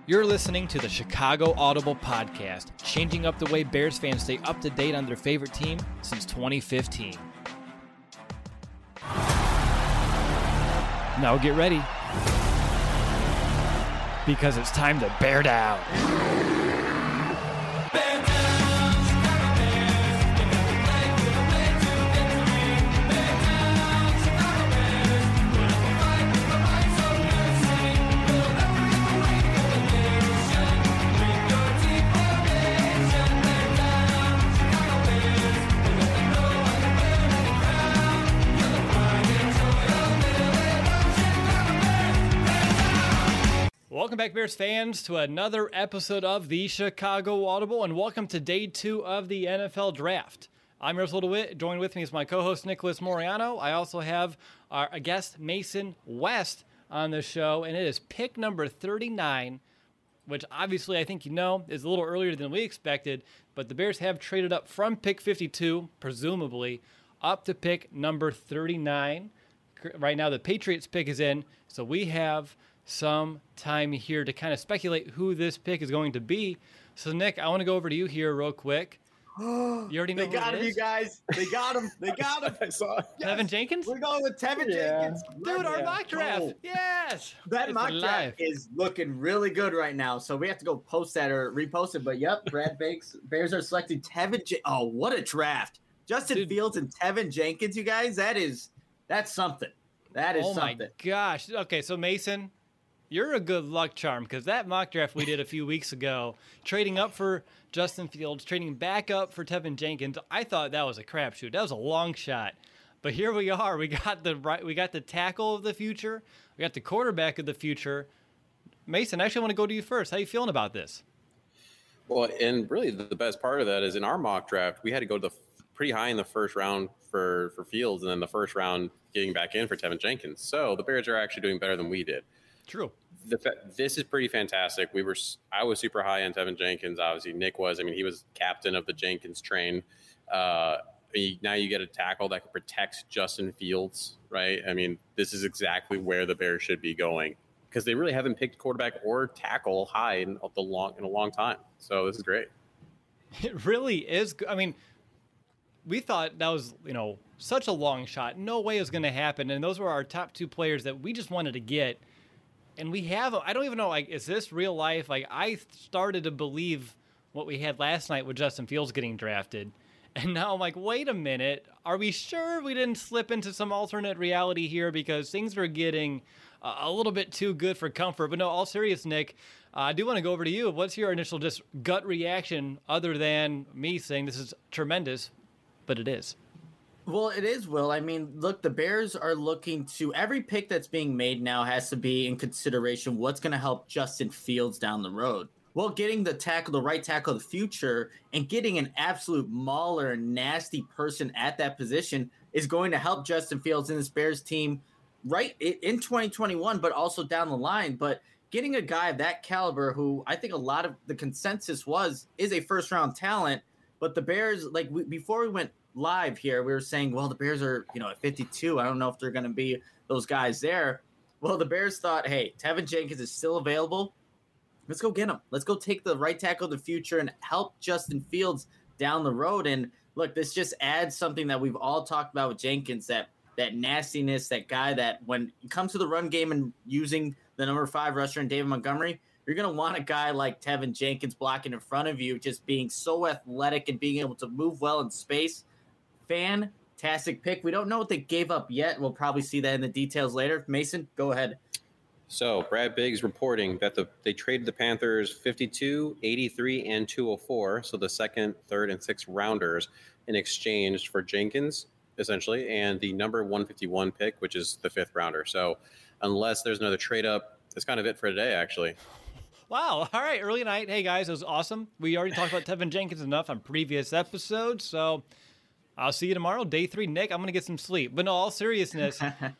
You're listening to the Chicago Audible Podcast, changing up the way Bears fans stay up to date on their favorite team since 2015. Now get ready, because it's time to bear down. Welcome back, Bears fans, to another episode of the Chicago Audible, and welcome to day 2 of the NFL Draft. I'm Russell DeWitt. Joined with me is my co-host, Nicholas Moriano. I also have our guest, Mason West, on the show, and it is pick number 39, which obviously I think you know is a little earlier than we expected, but the Bears have traded up from pick 52, presumably, up to pick number 39. Right now, the Patriots pick is in, so we have some time here to kind of speculate who this pick is going to be. So, Nick, I want to go over to you here real quick. You already know they got him, you guys. They got him. They got him. I saw it. Yes. Tevin Jenkins? We're going with Tevin Jenkins. Dude, our mock draft. Oh. Yes. That mock draft is looking really good right now. So we have to go post that or repost it. But, yep, Brad Bakes. Bears are selecting Tevin Jenkins. Oh, what a draft. Justin Fields and Tevin Jenkins, you guys. That's something. That is something. Oh, my gosh. Okay, so, Mason, you're a good luck charm, because that mock draft we did a few weeks ago, trading up for Justin Fields, trading back up for Tevin Jenkins, I thought that was a crapshoot. That was a long shot. But here we are. We got the tackle of the future. We got the quarterback of the future. Mason, I actually want to go to you first. How are you feeling about this? Well, and really the best part of that is in our mock draft, we had to go to pretty high in the first round for Fields, and then the first round getting back in for Tevin Jenkins. So the Bears are actually doing better than we did. True. This is pretty fantastic. I was super high on Tevin Jenkins. Obviously, Nick was. I mean, he was captain of the Jenkins train. Now you get a tackle that can protect Justin Fields, right? I mean, this is exactly where the Bears should be going, because they really haven't picked quarterback or tackle high in a long time. So this is great. It really is. I mean, we thought that was, such a long shot. No way it was going to happen. And those were our top 2 players that we just wanted to get. And we have, I don't even know, is this real life? I started to believe what we had last night with Justin Fields getting drafted. And now I'm like, wait a minute. Are we sure we didn't slip into some alternate reality here? Because things are getting a little bit too good for comfort. But no, all serious, Nick, I do want to go over to you. What's your initial just gut reaction, other than me saying this is tremendous, but it is? Well, it is, Will. I mean, look, the Bears are looking to – every pick that's being made now has to be in consideration what's going to help Justin Fields down the road. Well, getting the right tackle of the future and getting an absolute mauler, nasty person at that position is going to help Justin Fields and this Bears team right in 2021, but also down the line. But getting a guy of that caliber who I think a lot of the consensus is a first-round talent, but the Bears, before we went – live here, we were saying, well, the Bears are, at 52. I don't know if they're going to be those guys there. Well, the Bears thought, hey, Tevin Jenkins is still available. Let's go get him. Let's go take the right tackle of the future and help Justin Fields down the road. And look, this just adds something that we've all talked about with Jenkins, that nastiness, that guy that when it comes to the run game and using the number 5 rusher in David Montgomery, you're going to want a guy like Tevin Jenkins blocking in front of you, just being so athletic and being able to move well in space. Fantastic pick. We don't know what they gave up yet. We'll probably see that in the details later. Mason, go ahead. So Brad Biggs reporting that they traded the Panthers 52, 83, and 204, so the second, third, and sixth rounders, in exchange for Jenkins, essentially, and the number 151 pick, which is the 5th rounder. So unless there's another trade up, that's kind of it for today, actually. Wow. All right. Early night. Hey, guys, it was awesome. We already talked about Tevin Jenkins enough on previous episodes, so I'll see you tomorrow, day 3. Nick, I'm going to get some sleep. But no, all seriousness,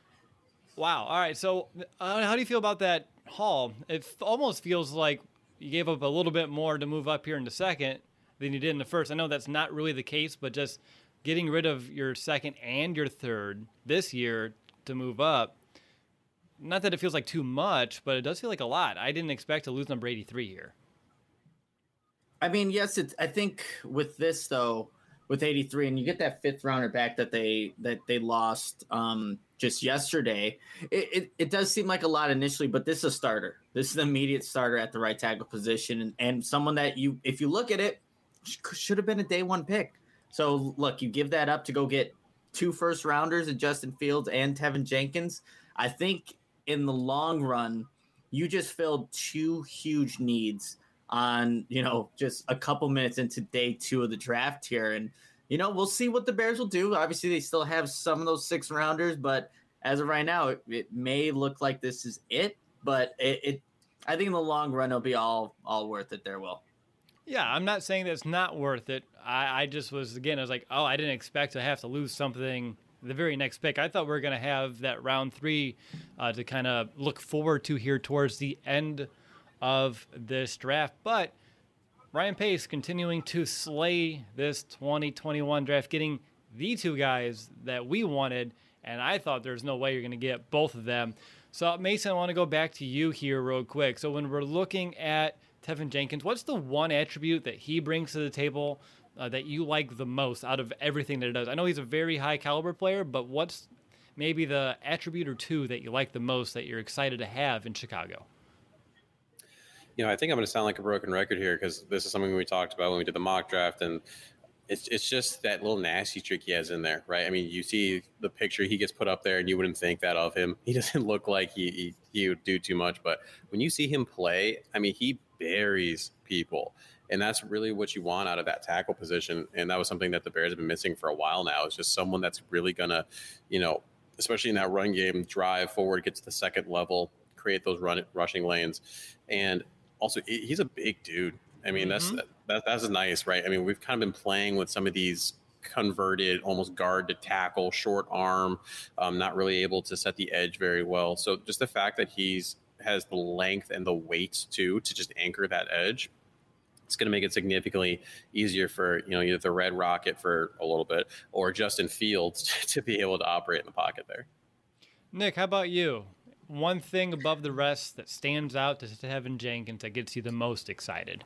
wow. All right, so how do you feel about that haul? It almost feels like you gave up a little bit more to move up here in the second than you did in the first. I know that's not really the case, but just getting rid of your second and your third this year to move up, not that it feels like too much, but it does feel like a lot. I didn't expect to lose number 83 here. I mean, yes, I think with this though, with 83, and you get that fifth rounder back that they lost just yesterday. It does seem like a lot initially, but this is a starter. This is an immediate starter at the right tackle position, and someone that if you look at it, should have been a day one pick. So look, you give that up to go get 2 first rounders in Justin Fields and Tevin Jenkins. I think in the long run, you just filled 2 huge needs on, just a couple minutes into day 2 of the draft here. And, we'll see what the Bears will do. Obviously, they still have some of those 6 rounders, but as of right now, it may look like this is it. But I think in the long run, it'll be all worth it there, Will. Yeah, I'm not saying that it's not worth it. I just was, again, I was like, I didn't expect to have to lose something the very next pick. I thought we were going to have that round 3 to kind of look forward to here towards the end of this draft. But Ryan Pace continuing to slay this 2021 draft, getting the 2 guys that we wanted, and I thought there's no way you're going to get both of them. So, Mason, I want to go back to you here real quick. So when we're looking at Tevin Jenkins, what's the one attribute that he brings to the table that you like the most out of everything that he does? I know he's a very high caliber player, but what's maybe the attribute or 2 that you like the most that you're excited to have in Chicago? I think I'm going to sound like a broken record here because this is something we talked about when we did the mock draft, and it's just that little nasty trick he has in there, right? I mean, you see the picture he gets put up there, and you wouldn't think that of him. He doesn't look like he would do too much, but when you see him play, I mean, he buries people, and that's really what you want out of that tackle position. And that was something that the Bears have been missing for a while now. It's just someone that's really going to, especially in that run game, drive forward, get to the second level, create those rushing lanes, and also, he's a big dude. I mean, that's nice, right? I mean, we've kind of been playing with some of these converted almost guard to tackle, short arm, not really able to set the edge very well. So just the fact that has the length and the weight too to just anchor that edge, it's going to make it significantly easier for either the Red Rocket for a little bit or Justin Fields to be able to operate in the pocket there. Nick, how about you? One thing above the rest that stands out to Tevin Jenkins that gets you the most excited?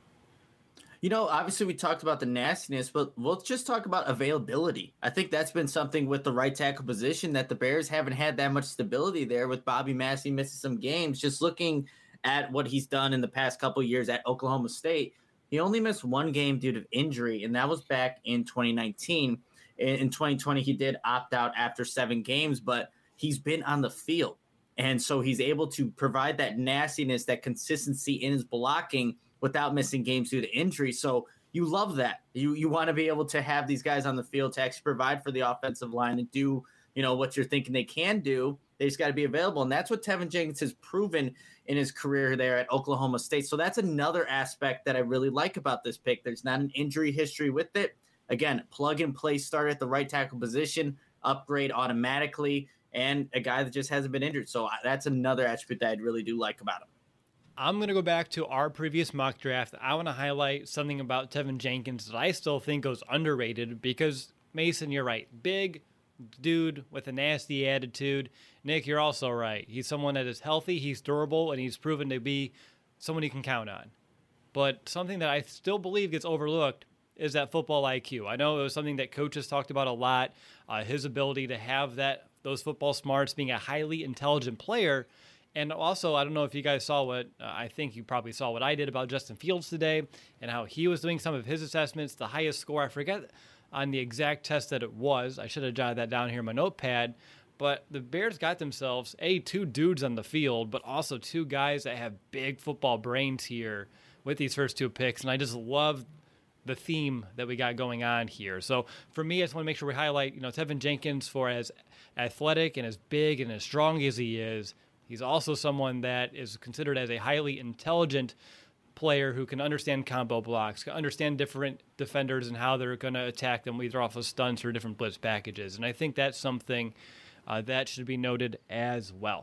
Obviously we talked about the nastiness, but let's just talk about availability. I think that's been something with the right tackle position that the Bears haven't had that much stability there with Bobby Massey missing some games. Just looking at what he's done in the past couple of years at Oklahoma State, he only missed 1 game due to injury, and that was back in 2019. In 2020, he did opt out after 7 games, but he's been on the field. And so he's able to provide that nastiness, that consistency in his blocking without missing games due to injury. So you love that. You want to be able to have these guys on the field to actually provide for the offensive line and do, what you're thinking they can do. They just got to be available. And that's what Tevin Jenkins has proven in his career there at Oklahoma State. So that's another aspect that I really like about this pick. There's not an injury history with it. Again, plug and play start at the right tackle position, upgrade automatically, and a guy that just hasn't been injured. So that's another attribute that I really do like about him. I'm going to go back to our previous mock draft. I want to highlight something about Tevin Jenkins that I still think goes underrated because, Mason, you're right. Big dude with a nasty attitude. Nick, you're also right. He's someone that is healthy, he's durable, and he's proven to be someone you can count on. But something that I still believe gets overlooked is that football IQ. I know it was something that coaches talked about a lot, his ability to have those football smarts, being a highly intelligent player. And also, I don't know if you guys saw I think you probably saw what I did about Justin Fields today and how he was doing some of his assessments, the highest score. I forget on the exact test that it was. I should have jotted that down here in my notepad. But the Bears got themselves, 2 dudes on the field, but also 2 guys that have big football brains here with these first 2 picks. And I just love the theme that we got going on here. So for me, I just want to make sure we highlight, Tevin Jenkins, for as athletic and as big and as strong as he is, he's also someone that is considered as a highly intelligent player who can understand combo blocks, can understand different defenders and how they're going to attack them, either off of stunts or different blitz packages. And I think that's something that should be noted as well.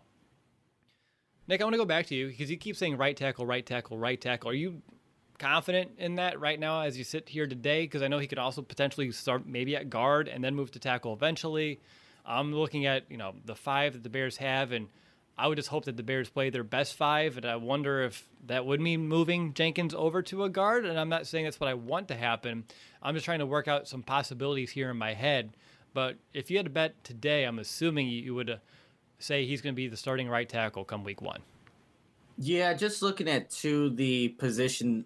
Nick, I want to go back to you because you keep saying right tackle, right tackle, right tackle. Are you confident in that right now as you sit here today? Because I know he could also potentially start maybe at guard and then move to tackle eventually. I'm looking at, the 5 that the Bears have, and I would just hope that the Bears play their best 5, and I wonder if that would mean moving Jenkins over to a guard. And I'm not saying that's what I want to happen. I'm just trying to work out some possibilities here in my head. But if you had to bet today, I'm assuming you would say he's going to be the starting right tackle come week 1. Yeah, just looking at the position,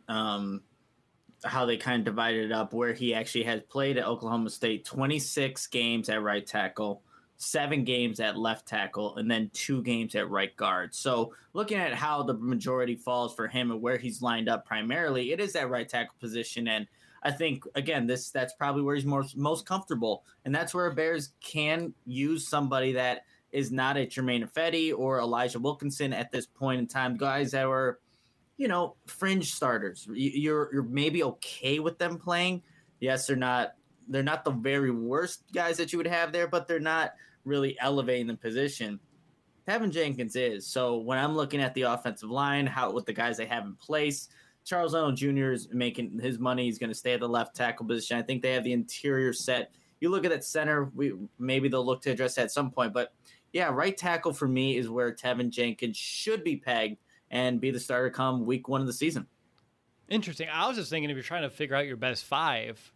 how they kind of divided it up, where he actually has played at Oklahoma State, 26 games at right tackle, 7 games at left tackle, and then 2 games at right guard. So looking at how the majority falls for him and where he's lined up primarily, it is that right tackle position. And I think, again, that's probably where he's most comfortable. And that's where Bears can use somebody that is not a Jermaine Ifedi or Elijah Wilkinson at this point in time, guys that were, fringe starters. You're maybe okay with them playing. Yes, they're not the very worst guys that you would have there, but they're not really elevating the position. Tevin Jenkins is. So when I'm looking at the offensive line, with the guys they have in place, Charles Leno Jr. is making his money. He's going to stay at the left tackle position. I think they have the interior set. You look at that center, maybe they'll look to address that at some point, but yeah, right tackle for me is where Tevin Jenkins should be pegged and be the starter come week 1 of the season. Interesting. I was just thinking, if you're trying to figure out your best 5,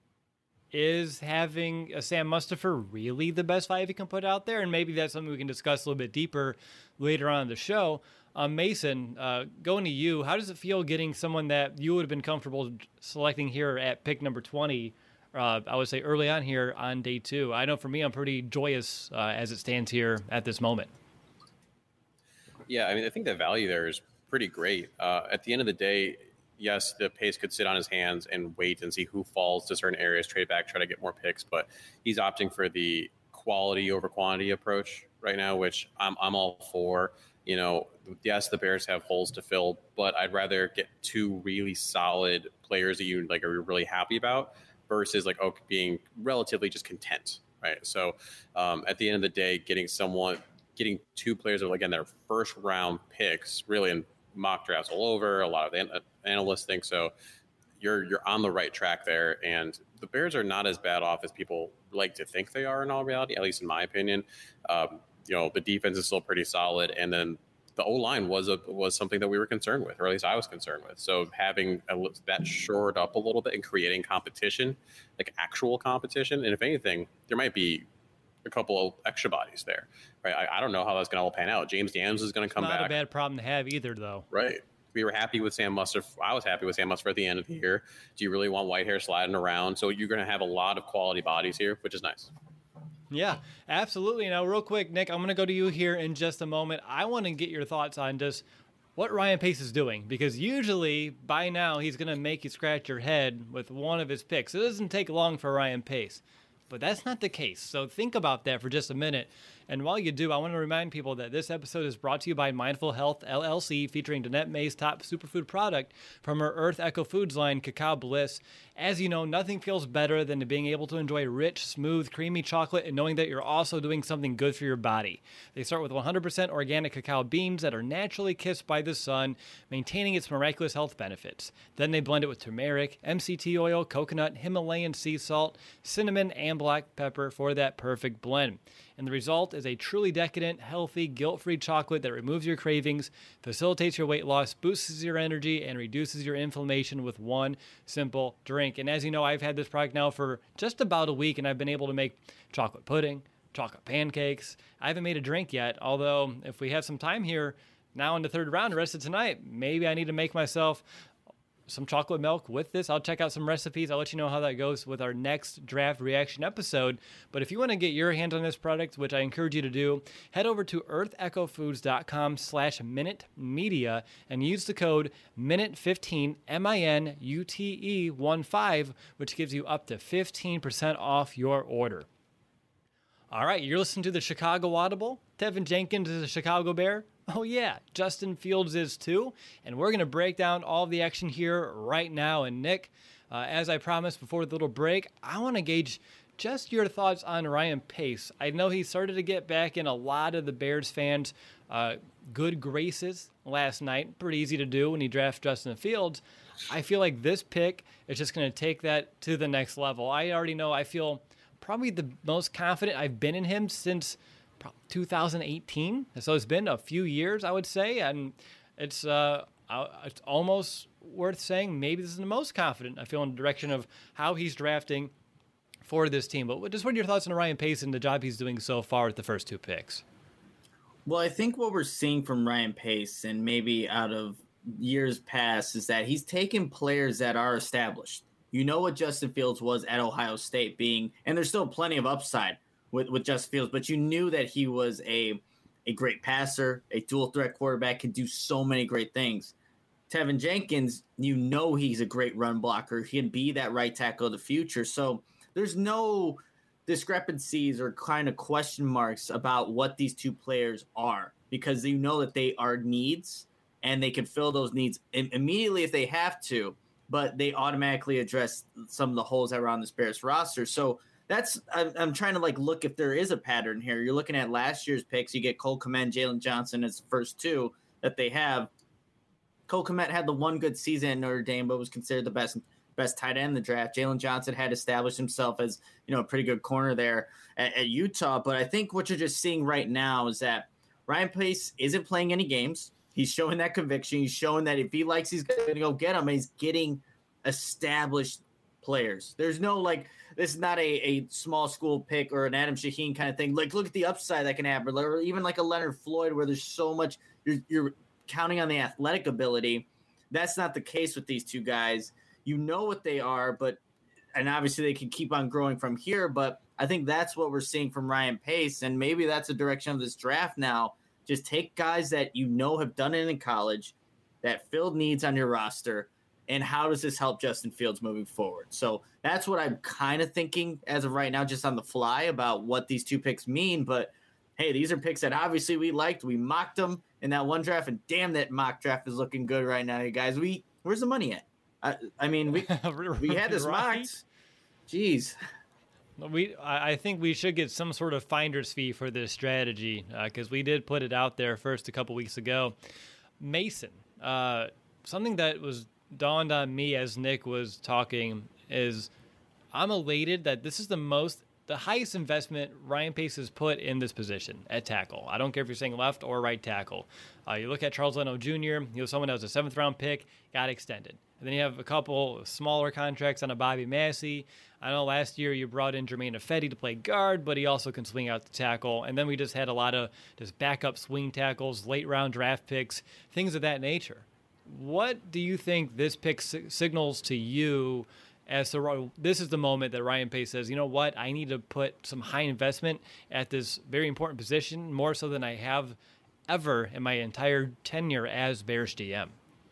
is having a Sam Mustipher really the best 5 you can put out there? And maybe that's something we can discuss a little bit deeper later on in the show. Mason, going to you, how does it feel getting someone that you would have been comfortable selecting here at pick number 20, I would say early on here on day 2? I know for me, I'm pretty joyous as it stands here at this moment. Yeah, I mean, I think the value there is pretty great. At the end of the day, yes, the Pace could sit on his hands and wait and see who falls to certain areas, trade back, try to get more picks, but he's opting for the quality over quantity approach right now, which I'm all for. Yes, the Bears have holes to fill, but I'd rather get 2 really solid players that you are really happy about versus being relatively just content, right? So at the end of the day, getting 2 players that, again, their first round picks, really in mock drafts all over, a lot of analysts think so. You're on the right track there, and the Bears are not as bad off as people like to think they are in all reality, at least in my opinion. The defense is still pretty solid, and then the O-line was something that we were concerned with, or at least I was concerned with. So having that shored up a little bit and creating competition, like actual competition, and if anything, there might be a couple of extra bodies there, right? I don't know how that's going to all pan out. James Daniels is going to come back. Not a bad problem to have either, though. Right. We were happy with Sam Mustipher. I was happy with Sam Mustipher at the end of the year. Do you really want Whitehair sliding around? So you're going to have a lot of quality bodies here, which is nice. Yeah, absolutely. Now, real quick, Nick, I'm going to go to you here in just a moment. I want to get your thoughts on just what Ryan Pace is doing, because usually by now he's going to make you scratch your head with one of his picks. It doesn't take long for Ryan Pace, but that's not the case. So think about that for just a minute. And while you do, I want to remind people that this episode is brought to you by Mindful Health LLC, featuring Danette May's top superfood product from her Earth Echo Foods line, Cacao Bliss. As you know, nothing feels better than being able to enjoy rich, smooth, creamy chocolate and knowing that you're also doing something good for your body. They start with 100% organic cacao beans that are naturally kissed by the sun, maintaining its miraculous health benefits. Then they blend it with turmeric, MCT oil, coconut, Himalayan sea salt, cinnamon, and black pepper for that perfect blend. And the result is a truly decadent, healthy, guilt-free chocolate that removes your cravings, facilitates your weight loss, boosts your energy, and reduces your inflammation with one simple drink. And as you know, I've had this product now for just about a week, and I've been able to make chocolate pudding, chocolate pancakes. I haven't made a drink yet, although if we have some time here now in the third round, the rest of tonight, maybe I need to make myself some chocolate milk with this. I'll check out some recipes. I'll let you know how that goes with our next draft reaction episode. But if you want to get your hands on this product, which I encourage you to do, head over to earthechofoods.com/minute-media and use the code MINUTE15, MINUTE15, which gives you up to 15% off your order. All right, you're listening to the Chicago Audible. Tevin Jenkins is a Chicago Bear. Oh yeah, Justin Fields is too. And we're going to break down all of the action here right now. And Nick, as I promised before the little break, I want to gauge just your thoughts on Ryan Pace. I know he started to get back in a lot of the Bears fans' good graces last night. Pretty easy to do when you draft Justin Fields. I feel like this pick is just going to take that to the next level. I already know I feel probably the most confident I've been in him since 2018. So it's been a few years, I would say, and it's almost worth saying maybe this is the most confident I feel in the direction of how he's drafting for this team. But just what are your thoughts on Ryan Pace and the job he's doing so far with the first 2 picks? Well, I think what we're seeing from Ryan Pace and maybe out of years past is that he's taken players that are established. You know what Justin Fields was at Ohio State being, and there's still plenty of upside with Justin Fields, but you knew that he was a great passer, a dual threat quarterback, can do so many great things. Tevin Jenkins, you know he's a great run blocker. He can be that right tackle of the future. So there's no discrepancies or kind of question marks about what these 2 players are, because you know that they are needs and they can fill those needs immediately if they have to, but they automatically address some of the holes that are on this Bears roster. So I'm trying to look if there is a pattern here. You're looking at last year's picks. You get Cole Kmet, Jalen Johnson as the first 2 that they have. Cole Kmet had the one good season at Notre Dame, but was considered the best tight end in the draft. Jalen Johnson had established himself as, a pretty good corner there at Utah. But I think what you're just seeing right now is that Ryan Pace isn't playing any games. He's showing that conviction. He's showing that if he likes, he's going to go get them. And he's getting established players. There's no this is not a small school pick or an Adam Shaheen kind of thing. Look at the upside that can happen, or even like a Leonard Floyd, where there's so much you're counting on the athletic ability. That's not the case with these 2 guys. You know what they are, and obviously they can keep on growing from here. But I think that's what we're seeing from Ryan Pace, and maybe that's the direction of this draft now. Just take guys that have done it in college, that filled needs on your roster, and how does this help Justin Fields moving forward? So that's what I'm kind of thinking as of right now, just on the fly, about what these 2 picks mean. But hey, these are picks that obviously we liked. We mocked them in that one draft, and damn, that mock draft is looking good right now, you guys. Where's the money at? I mean, we had this mocked. Jeez. I think we should get some sort of finder's fee for this strategy, because we did put it out there first a couple weeks ago. Mason, something that was dawned on me as Nick was talking is I'm elated that this is the highest investment Ryan Pace has put in this position at tackle. I don't care if you're saying left or right tackle. You look at Charles Leno Jr., someone that was a 7th-round pick, got extended. And then you have a couple smaller contracts on a Bobby Massey. I know last year you brought in Jermaine Ifedi to play guard, but he also can swing out the tackle. And then we just had a lot of just backup swing tackles, late-round draft picks, things of that nature. What do you think this pick signals to you as to this is the moment that Ryan Pace says, you know what, I need to put some high investment at this very important position, more so than I have ever in my entire tenure as Bears GM?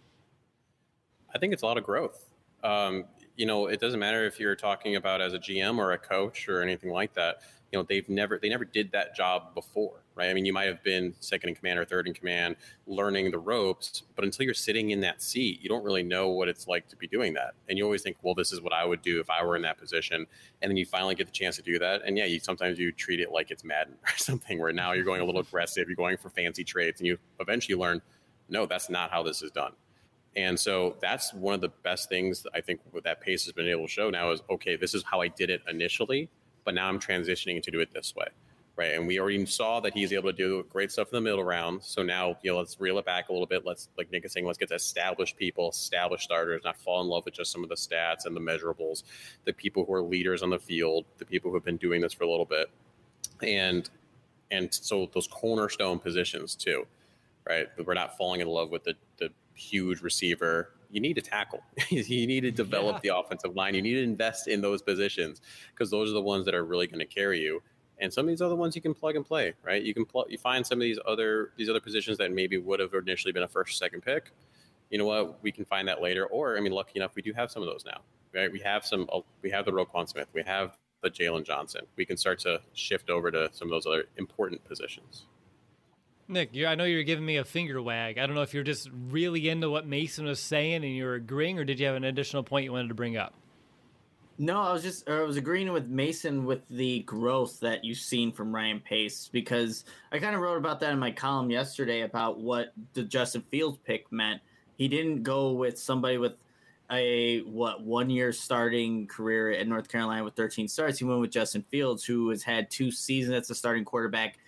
I think it's a lot of growth. It doesn't matter if you're talking about as a GM or a coach or anything like that. They never did that job before, right? I mean, you might have been second in command or third in command, learning the ropes, but until you're sitting in that seat, you don't really know what it's like to be doing that. And you always think, well, this is what I would do if I were in that position. And then you finally get the chance to do that. And yeah, sometimes you treat it like it's Madden or something, where now you're going a little aggressive, you're going for fancy trades, and you eventually learn, no, that's not how this is done. And so that's one of the best things I think that Pace has been able to show now is, okay, this is how I did it initially, but now I'm transitioning to do it this way, right? And we already saw that he's able to do great stuff in the middle round. So now, let's reel it back a little bit. Let's, like Nick is saying, let's get to established people, established starters, not fall in love with just some of the stats and the measurables, the people who are leaders on the field, the people who have been doing this for a little bit. And so those cornerstone positions too, right? We're not falling in love with the huge receiver. You need to tackle. You need to develop the offensive line. You need to invest in those positions, because those are the ones that are really going to carry you. And some of these other ones you can plug and play, right? You find some of these other positions that maybe would have initially been a first or second pick. You know what? We can find that later. Or, lucky enough, we do have some of those now, right? We have the Roquan Smith. We have the Jalen Johnson. We can start to shift over to some of those other important positions. Nick, I know you're giving me a finger wag. I don't know if you're just really into what Mason was saying and you're agreeing, or did you have an additional point you wanted to bring up? No, I was agreeing with Mason with the growth that you've seen from Ryan Pace, because I kind of wrote about that in my column yesterday about what the Justin Fields pick meant. He didn't go with somebody with a 1 year starting career at North Carolina with 13 starts. He went with Justin Fields, who has had 2 seasons as a starting quarterback,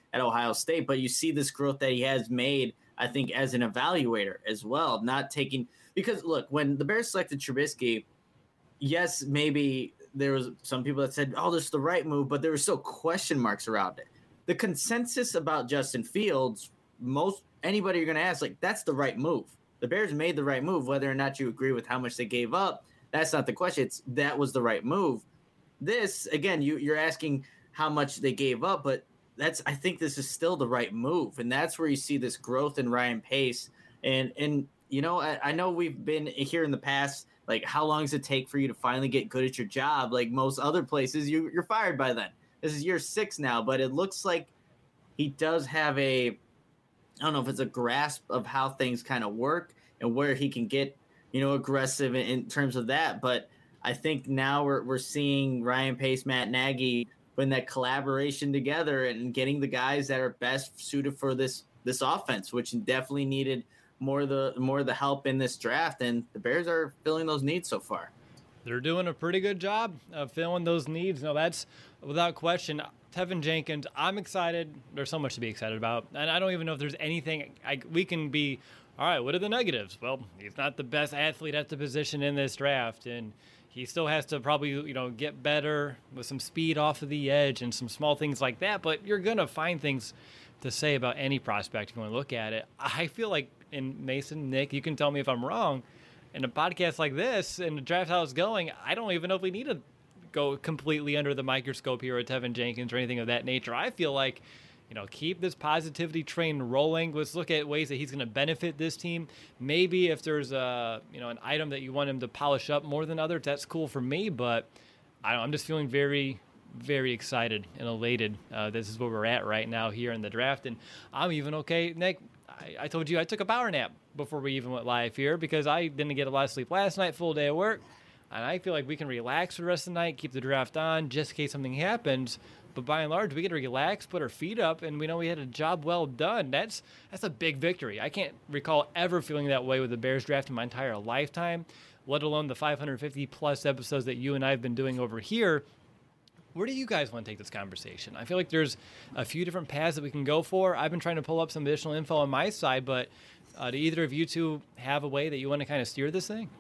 at Ohio State, but you see this growth that he has made, I think, as an evaluator as well, not taking – because, look, when the Bears selected Trubisky, yes, maybe there was some people that said, oh, this is the right move, but there were still question marks around it. The consensus about Justin Fields, anybody you're going to ask, like, that's the right move. The Bears made the right move. Whether or not you agree with how much they gave up, that's not the question. That was the right move. This, again, you're asking how much they gave up, but I think this is still the right move. And that's where you see this growth in Ryan Pace. And you know, I know we've been here in the past, like, how long does it take for you to finally get good at your job? Like most other places, you're fired by then. This is year 6 now, but it looks like he does have I don't know if it's a grasp of how things kind of work and where he can get, you know, aggressive in terms of that. But I think now we're seeing Ryan Pace, Matt Nagy putting that collaboration together and getting the guys that are best suited for this offense, which definitely needed more of the help in this draft. And the Bears are filling those needs so far. They're doing a pretty good job of filling those needs. No, that's without question. Tevin Jenkins, I'm excited. There's so much to be excited about. And I don't even know if there's anything we can be, all right, what are the negatives? Well, he's not the best athlete at the position in this draft. And he still has to probably, you know, get better with some speed off of the edge and some small things like that. But you're going to find things to say about any prospect if you want to look at it. I feel like, in Mason, Nick, you can tell me if I'm wrong, in a podcast like this and the draft how it's going, I don't even know if we need to go completely under the microscope here at Tevin Jenkins or anything of that nature. I feel like, you know, keep this positivity train rolling. Let's look at ways that he's going to benefit this team. Maybe if there's an item that you want him to polish up more than others, that's cool for me. But I'm just feeling very, very excited and elated. This is where we're at right now here in the draft. And I'm even okay, Nick. I told you I took a power nap before we even went live here because I didn't get a lot of sleep last night, full day of work. And I feel like we can relax for the rest of the night, keep the draft on just in case something happens. But by and large, we get to relax, put our feet up, and we know we had a job well done. That's a big victory. I can't recall ever feeling that way with the Bears draft in my entire lifetime, let alone the 550-plus episodes that you and I have been doing over here. Where do you guys want to take this conversation? I feel like there's a few different paths that we can go for. I've been trying to pull up some additional info on my side, but do either of you two have a way that you want to kind of steer this thing?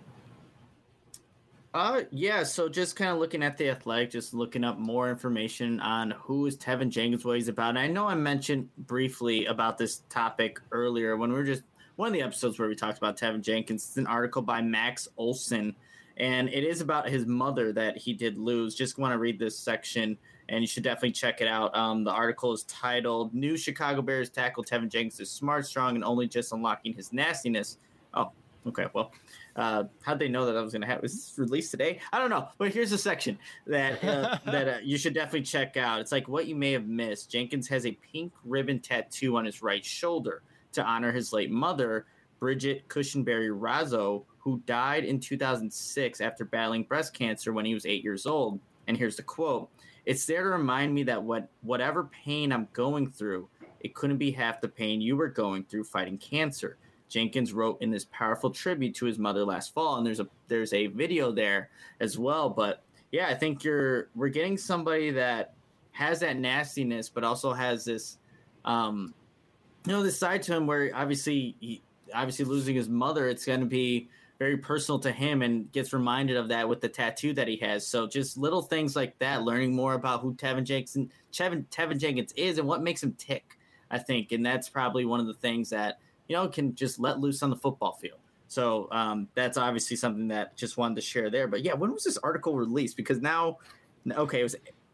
Yeah, so just kind of looking at The Athletic, just looking up more information on who is Tevin Jenkins, what he's about. And I know I mentioned briefly about this topic earlier when we were just one of the episodes where we talked about Tevin Jenkins. It's an article by Max Olson, and it is about his mother that he did lose. Just want to read this section, and you should definitely check it out. The article is titled, New Chicago Bears Tackle Tevin Jenkins is Smart, Strong, and Only Just Unlocking His Nastiness. Oh, okay, well. How'd they know that I was going to have? Was this released today? I don't know. But here's a section that you should definitely check out. It's like what you may have missed. Jenkins has a pink ribbon tattoo on his right shoulder to honor his late mother, Bridget Cushenberry Razzo, who died in 2006 after battling breast cancer when he was 8 years old. And here's the quote. It's there to remind me that whatever pain I'm going through, it couldn't be half the pain you were going through fighting cancer. Jenkins wrote in this powerful tribute to his mother last fall, and there's a video there as well. But yeah, I think we're getting somebody that has that nastiness, but also has this, this side to him where obviously losing his mother, it's going to be very personal to him, and gets reminded of that with the tattoo that he has. So just little things like that, learning more about who Tevin Jenkins is and what makes him tick, I think, and that's probably one of the things that can just let loose on the football field. So that's obviously something that just wanted to share there. But yeah, when was this article released? Because now, okay, it was.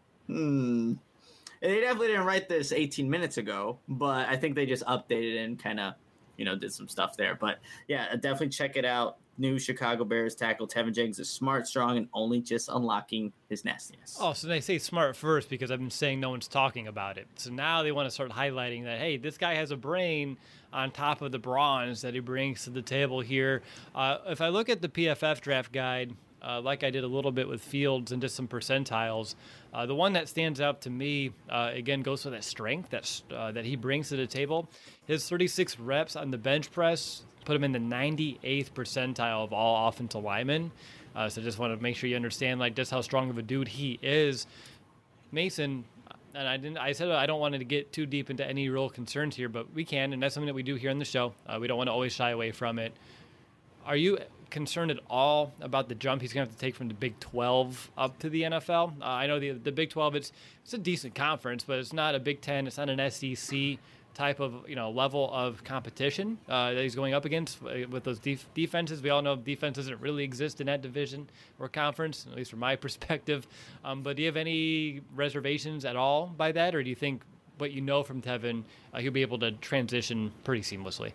They definitely didn't write this 18 minutes ago, but I think they just updated and kind of, did some stuff there. But yeah, definitely check it out. New Chicago Bears tackle Tevin Jenkins is smart, strong, and only just unlocking his nastiness. Oh, so they say smart first because I've been saying no one's talking about it. So now they want to start highlighting that, hey, this guy has a brain on top of the bronze that he brings to the table here. If I look at the PFF draft guide, like I did a little bit with Fields and just some percentiles, the one that stands out to me, again, goes for that strength that he brings to the table. His 36 reps on the bench press put him in the 98th percentile of all offensive linemen. So just want to make sure you understand just how strong of a dude he is. Mason, and I said I don't want to get too deep into any real concerns here, but we can, and that's something that we do here on the show. We don't want to always shy away from it. Are you concerned at all about the jump he's going to have to take from the Big 12 up to the NFL? I know the Big 12, it's a decent conference, but it's not a Big 10. It's not an SEC type of level of competition that he's going up against with those defenses. We all know defense doesn't really exist in that division or conference, at least from my perspective. But do you have any reservations at all by that, or do you think what you know from Tevin, he'll be able to transition pretty seamlessly?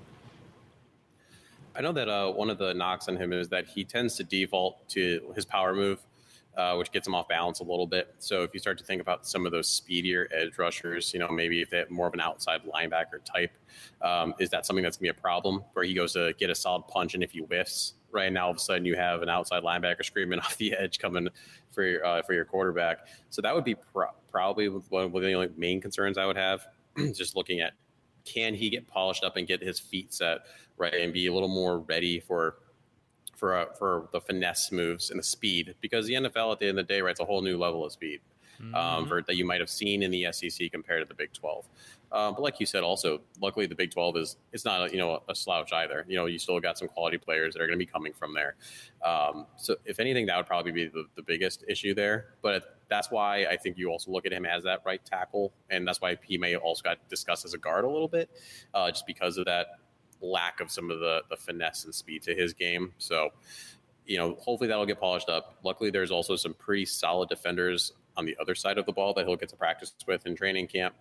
I know that one of the knocks on him is that he tends to default to his power move, which gets him off balance a little bit. So if you start to think about some of those speedier edge rushers, maybe if they have more of an outside linebacker type, is that something that's going to be a problem where he goes to get a solid punch and if he whiffs, right now all of a sudden you have an outside linebacker screaming off the edge coming for your quarterback. So that would be probably one of the only main concerns I would have, just looking at can he get polished up and get his feet set right and be a little more ready for the finesse moves and the speed, because the NFL at the end of the day, right, it's a whole new level of speed that you might have seen in the SEC compared to the Big 12. But like you said, also, luckily the Big 12 it's not a slouch either. You still got some quality players that are going to be coming from there. So if anything, that would probably be the biggest issue there. But that's why I think you also look at him as that right tackle, and that's why he may also got discussed as a guard a little bit, just because of that lack of some of the finesse and speed to his game. So, hopefully that'll get polished up. Luckily, there's also some pretty solid defenders on the other side of the ball that he'll get to practice with in training camp.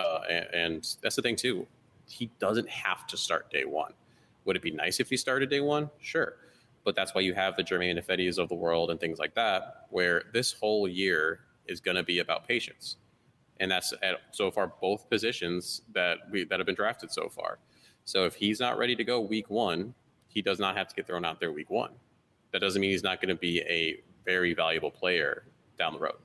And that's the thing too. He doesn't have to start day one. Would it be nice if he started day one? Sure. But that's why you have the Jermaine Ifedis of the world and things like that, where this whole year is going to be about patience. And that's at so far both positions that have been drafted so far. So if he's not ready to go week one, he does not have to get thrown out there week one. That doesn't mean he's not going to be a very valuable player down the road.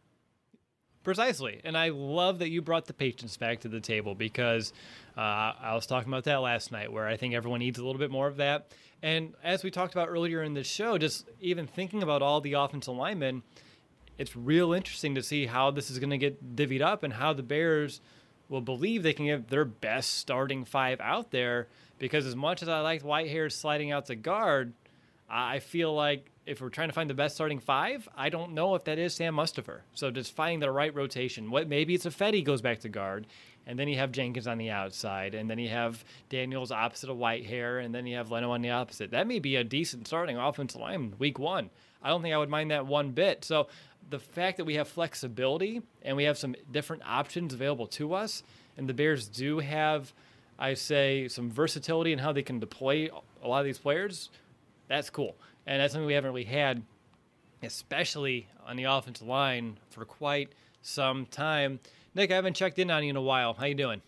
Precisely. And I love that you brought the patience back to the table, because I was talking about that last night, where I think everyone needs a little bit more of that. And as we talked about earlier in the show, just even thinking about all the offensive linemen, it's real interesting to see how this is going to get divvied up and how the Bears will believe they can get their best starting five out there. Because as much as I liked Whitehair sliding out to guard, I feel like if we're trying to find the best starting five, I don't know if that is Sam Mustipher. So just finding the right rotation. Maybe it's Ifedi goes back to guard, and then you have Jenkins on the outside, and then you have Daniels opposite of Whitehair, and then you have Leno on the opposite. That may be a decent starting offensive line week one. I don't think I would mind that one bit. So the fact that we have flexibility and we have some different options available to us, and the Bears do have, I say, some versatility in how they can deploy a lot of these players, that's cool. And that's something we haven't really had, especially on the offensive line, for quite some time. Nick, I haven't checked in on you in a while. How you doing?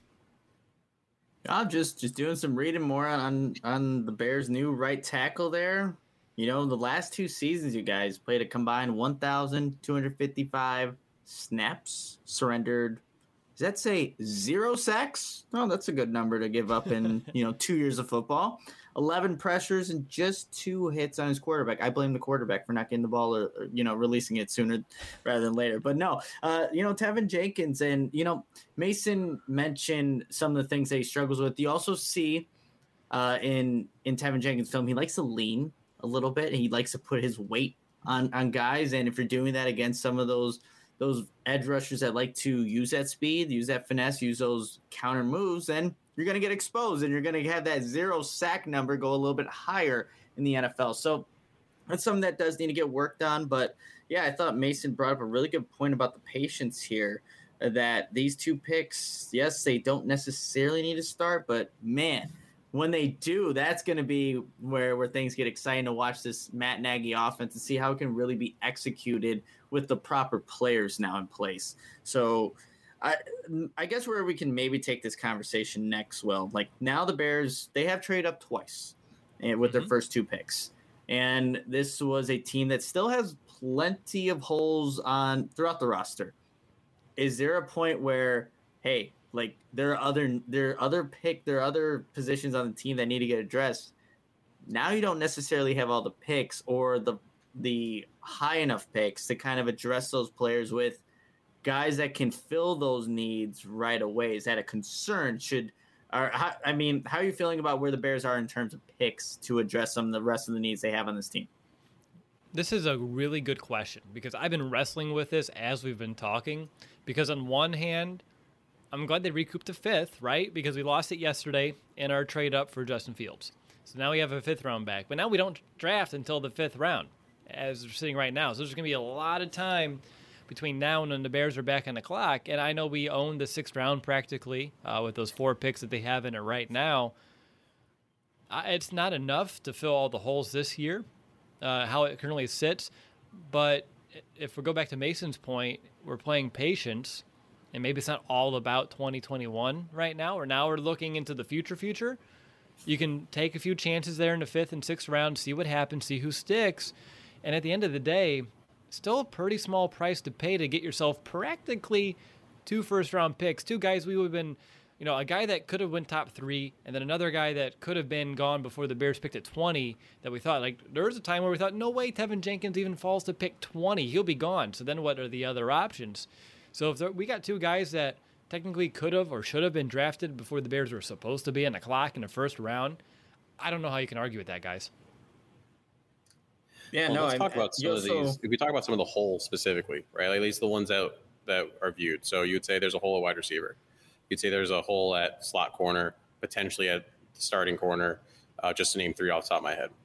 I'm just doing some reading more on the Bears' new right tackle there. The last two seasons, you guys played a combined 1,255 snaps, surrendered. Does that say 0 sacks? Oh, that's a good number to give up in 2 years of football. 11 pressures and just 2 hits on his quarterback. I blame the quarterback for not getting the ball or releasing it sooner rather than later. But no, Tevin Jenkins and, Mason mentioned some of the things that he struggles with. You also see in Tevin Jenkins' film, he likes to lean a little bit. He likes to put his weight on guys. And if you're doing that against some of those edge rushers that like to use that speed, use that finesse, use those counter moves, then you're going to get exposed and you're going to have that 0 sack number go a little bit higher in the NFL. So that's something that does need to get worked on. But yeah, I thought Mason brought up a really good point about the patience here, that these 2 picks, yes, they don't necessarily need to start, but man, when they do, that's going to be where things get exciting to watch this Matt Nagy offense and see how it can really be executed with the proper players now in place. So I guess where we can maybe take this conversation next, Will, like now the Bears, they have traded up twice with their first 2 picks. And this was a team that still has plenty of holes throughout the roster. Is there a point where, hey, like there are other positions on the team that need to get addressed? Now you don't necessarily have all the picks or the high enough picks to kind of address those players with guys that can fill those needs right away? Is that a concern? How are you feeling about where the Bears are in terms of picks to address some of the rest of the needs they have on this team? This is a really good question because I've been wrestling with this as we've been talking. Because on one hand, I'm glad they recouped the fifth, right? Because we lost it yesterday in our trade up for Justin Fields. So now we have a fifth round back. But now we don't draft until the fifth round, as we're sitting right now. So there's going to be a lot of time between now and when the Bears are back on the clock. And I know we own the sixth round practically with those 4 picks that they have in it right now. It's not enough to fill all the holes this year. How it currently sits. But if we go back to Mason's point, we're playing patience, and maybe it's not all about 2021 right now, or now we're looking into the future. You can take a few chances there in the 5th and 6th round, see what happens, see who sticks. And at the end of the day, still a pretty small price to pay to get yourself practically 2 first-round picks, 2 guys we would have been, a guy that could have went top 3, and then another guy that could have been gone before the Bears picked at 20 that we thought, there was a time where we thought, no way Tevin Jenkins even falls to pick 20. He'll be gone. So then what are the other options? So if we got 2 guys that technically could have or should have been drafted before the Bears were supposed to be on the clock in the first round, I don't know how you can argue with that, guys. Yeah, let's talk about some of these. If we talk about some of the holes specifically, right? At least the ones that are viewed. So you would say there's a hole at wide receiver. You'd say there's a hole at slot corner, potentially at starting corner, just to name 3 off the top of my head.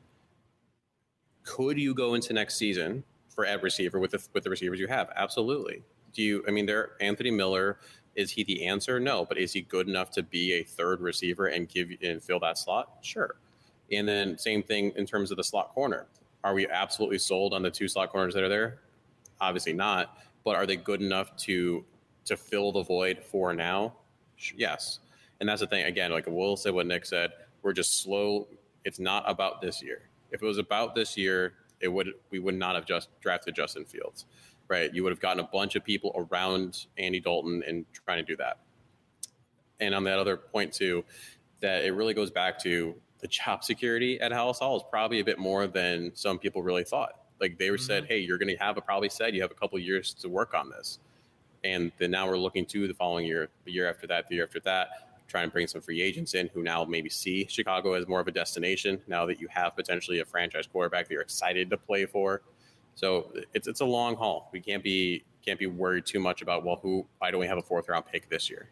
Could you go into next season for at receiver with the receivers you have? Absolutely. Anthony Miller, is he the answer? No, but is he good enough to be a third receiver and fill that slot? Sure. And then same thing in terms of the slot corner. Are we absolutely sold on the 2 slot corners that are there? Obviously not. But are they good enough to fill the void for now? Yes. And that's the thing. Again, like Will said, what Nick said, we're just slow. It's not about this year. If it was about this year, we would not have just drafted Justin Fields, right? You would have gotten a bunch of people around Andy Dalton and trying to do that. And on that other point too, that it really goes back to the job security at Halas Hall is probably a bit more than some people really thought. Like they were said, hey, you're going to have you have a couple of years to work on this. And then now we're looking to the following year, the year after that, try and bring some free agents in who now maybe see Chicago as more of a destination now that you have potentially a franchise quarterback that you're excited to play for. So it's a long haul. We can't be worried too much about, why don't we have a 4th round pick this year?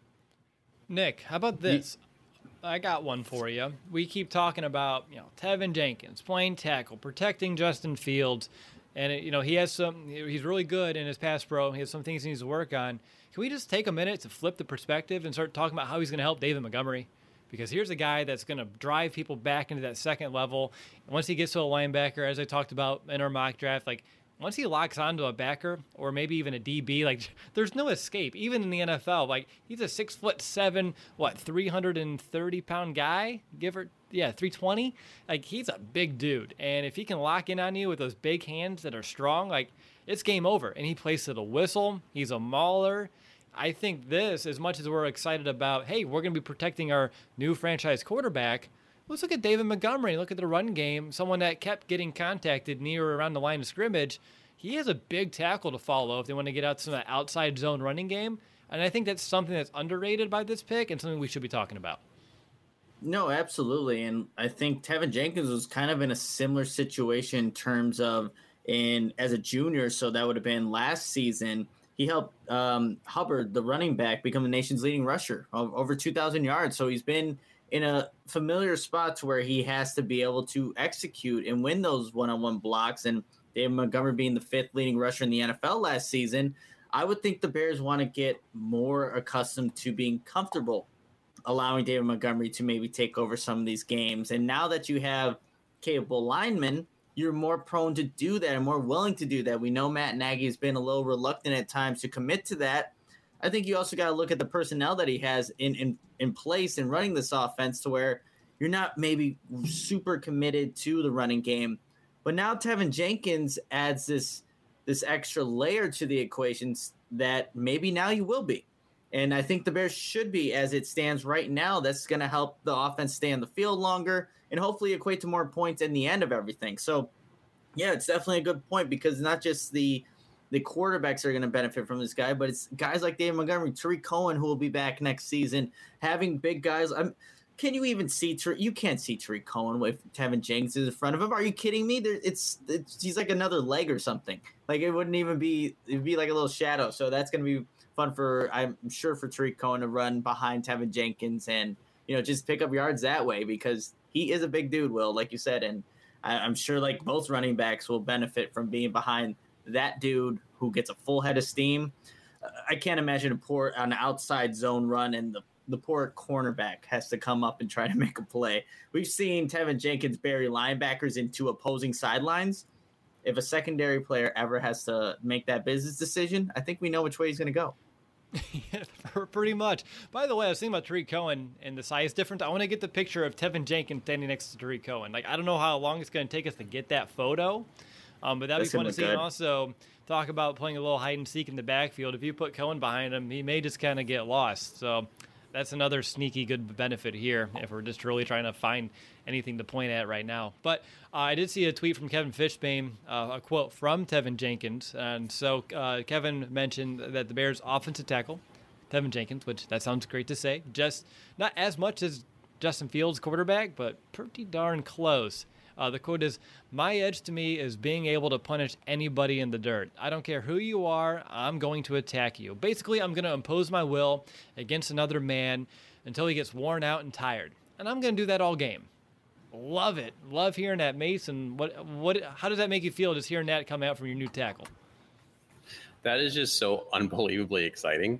Nick, how about this? I got one for you. We keep talking about, Tevin Jenkins, playing tackle, protecting Justin Fields. And, he's really good in his pass pro. He has some things he needs to work on. Can we just take a minute to flip the perspective and start talking about how he's going to help David Montgomery? Because here's a guy that's going to drive people back into that second level. And once he gets to a linebacker, as I talked about in our mock draft, once he locks onto a backer or maybe even a DB, there's no escape. Even in the NFL, he's a 6'7", 330-pound guy, 320. He's a big dude, and if he can lock in on you with those big hands that are strong, it's game over. And he plays to the whistle. He's a mauler. I think this, as much as we're excited about, hey, we're going to be protecting our new franchise quarterback. Let's look at David Montgomery. Look at the run game. Someone that kept getting contacted near or around the line of scrimmage. He has a big tackle to follow if they want to get out some of that outside zone running game. And I think that's something that's underrated by this pick and something we should be talking about. No, absolutely. And I think Tevin Jenkins was kind of in a similar situation in terms of as a junior. So that would have been last season. He helped Hubbard, the running back, become the nation's leading rusher of over 2,000 yards. So he's been in a familiar spot to where he has to be able to execute and win those one-on-one blocks. And David Montgomery being the 5th leading rusher in the NFL last season, I would think the Bears want to get more accustomed to being comfortable allowing David Montgomery to maybe take over some of these games. And now that you have capable linemen, you're more prone to do that and more willing to do that. We know Matt Nagy has been a little reluctant at times to commit to that. I think you also got to look at the personnel that he has in place in running this offense to where you're not maybe super committed to the running game. But now Tevin Jenkins adds this extra layer to the equations that maybe now you will be. And I think the Bears should be as it stands right now. That's going to help the offense stay on the field longer and hopefully equate to more points in the end of everything. So, yeah, it's definitely a good point because not just the the quarterbacks are going to benefit from this guy, but it's guys like David Montgomery, Tariq Cohen, who will be back next season, having big guys. Can you even see you can't see Tariq Cohen with Tevin Jenkins in front of him. Are you kidding me? He's like another leg or something. Like it wouldn't even be, it'd be like a little shadow. So that's going to be fun I'm sure for Tariq Cohen to run behind Tevin Jenkins and, just pick up yards that way because he is a big dude, Will, like you said. And I'm sure like both running backs will benefit from being behind that dude who gets a full head of steam. I can't imagine an outside zone run and the poor cornerback has to come up and try to make a play. We've seen Tevin Jenkins bury linebackers into opposing sidelines. If a secondary player ever has to make that business decision, I think we know which way he's going to go. Yeah, pretty much. By the way, I was thinking about Tariq Cohen and the size difference. I want to get the picture of Tevin Jenkins standing next to Tariq Cohen. Like, I don't know how long it's going to take us to get that photo, but that'd be fun to see. And also talk about playing a little hide and seek in the backfield. If you put Cohen behind him, he may just kind of get lost. So that's another sneaky good benefit here if we're just really trying to find anything to point at right now. But I did see a tweet from Kevin Fishbane, a quote from Tevin Jenkins. And so Kevin mentioned that the Bears' offensive tackle, Tevin Jenkins, which that sounds great to say, just not as much as Justin Fields, quarterback, but pretty darn close. The quote is, "My edge to me is being able to punish anybody in the dirt. I don't care who you are, I'm going to attack you. Basically, I'm going to impose my will against another man until he gets worn out and tired. And I'm going to do that all game." Love it. Love hearing that, Mason. How does that make you feel just hearing that come out from your new tackle? That is just so unbelievably exciting.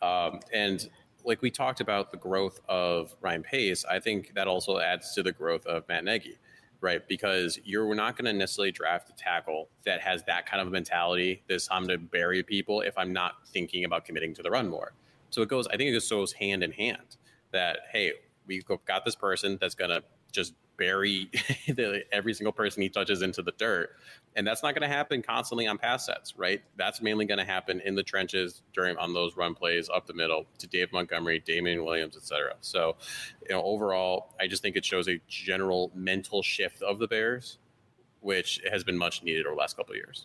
And like we talked about the growth of Ryan Pace, I think that also adds to the growth of Matt Nagy. Right, because you're not going to necessarily draft a tackle that has that kind of a mentality. This I'm going to bury people if I'm not thinking about committing to the run more. So I think it just goes hand in hand that, hey, we've got this person that's going to just bury every single person he touches into the dirt. And that's not going to happen constantly on pass sets, right? That's mainly going to happen in the trenches on those run plays up the middle to Dave Montgomery, Damian Williams, etc. So, overall, I just think it shows a general mental shift of the Bears, which has been much needed over the last couple of years.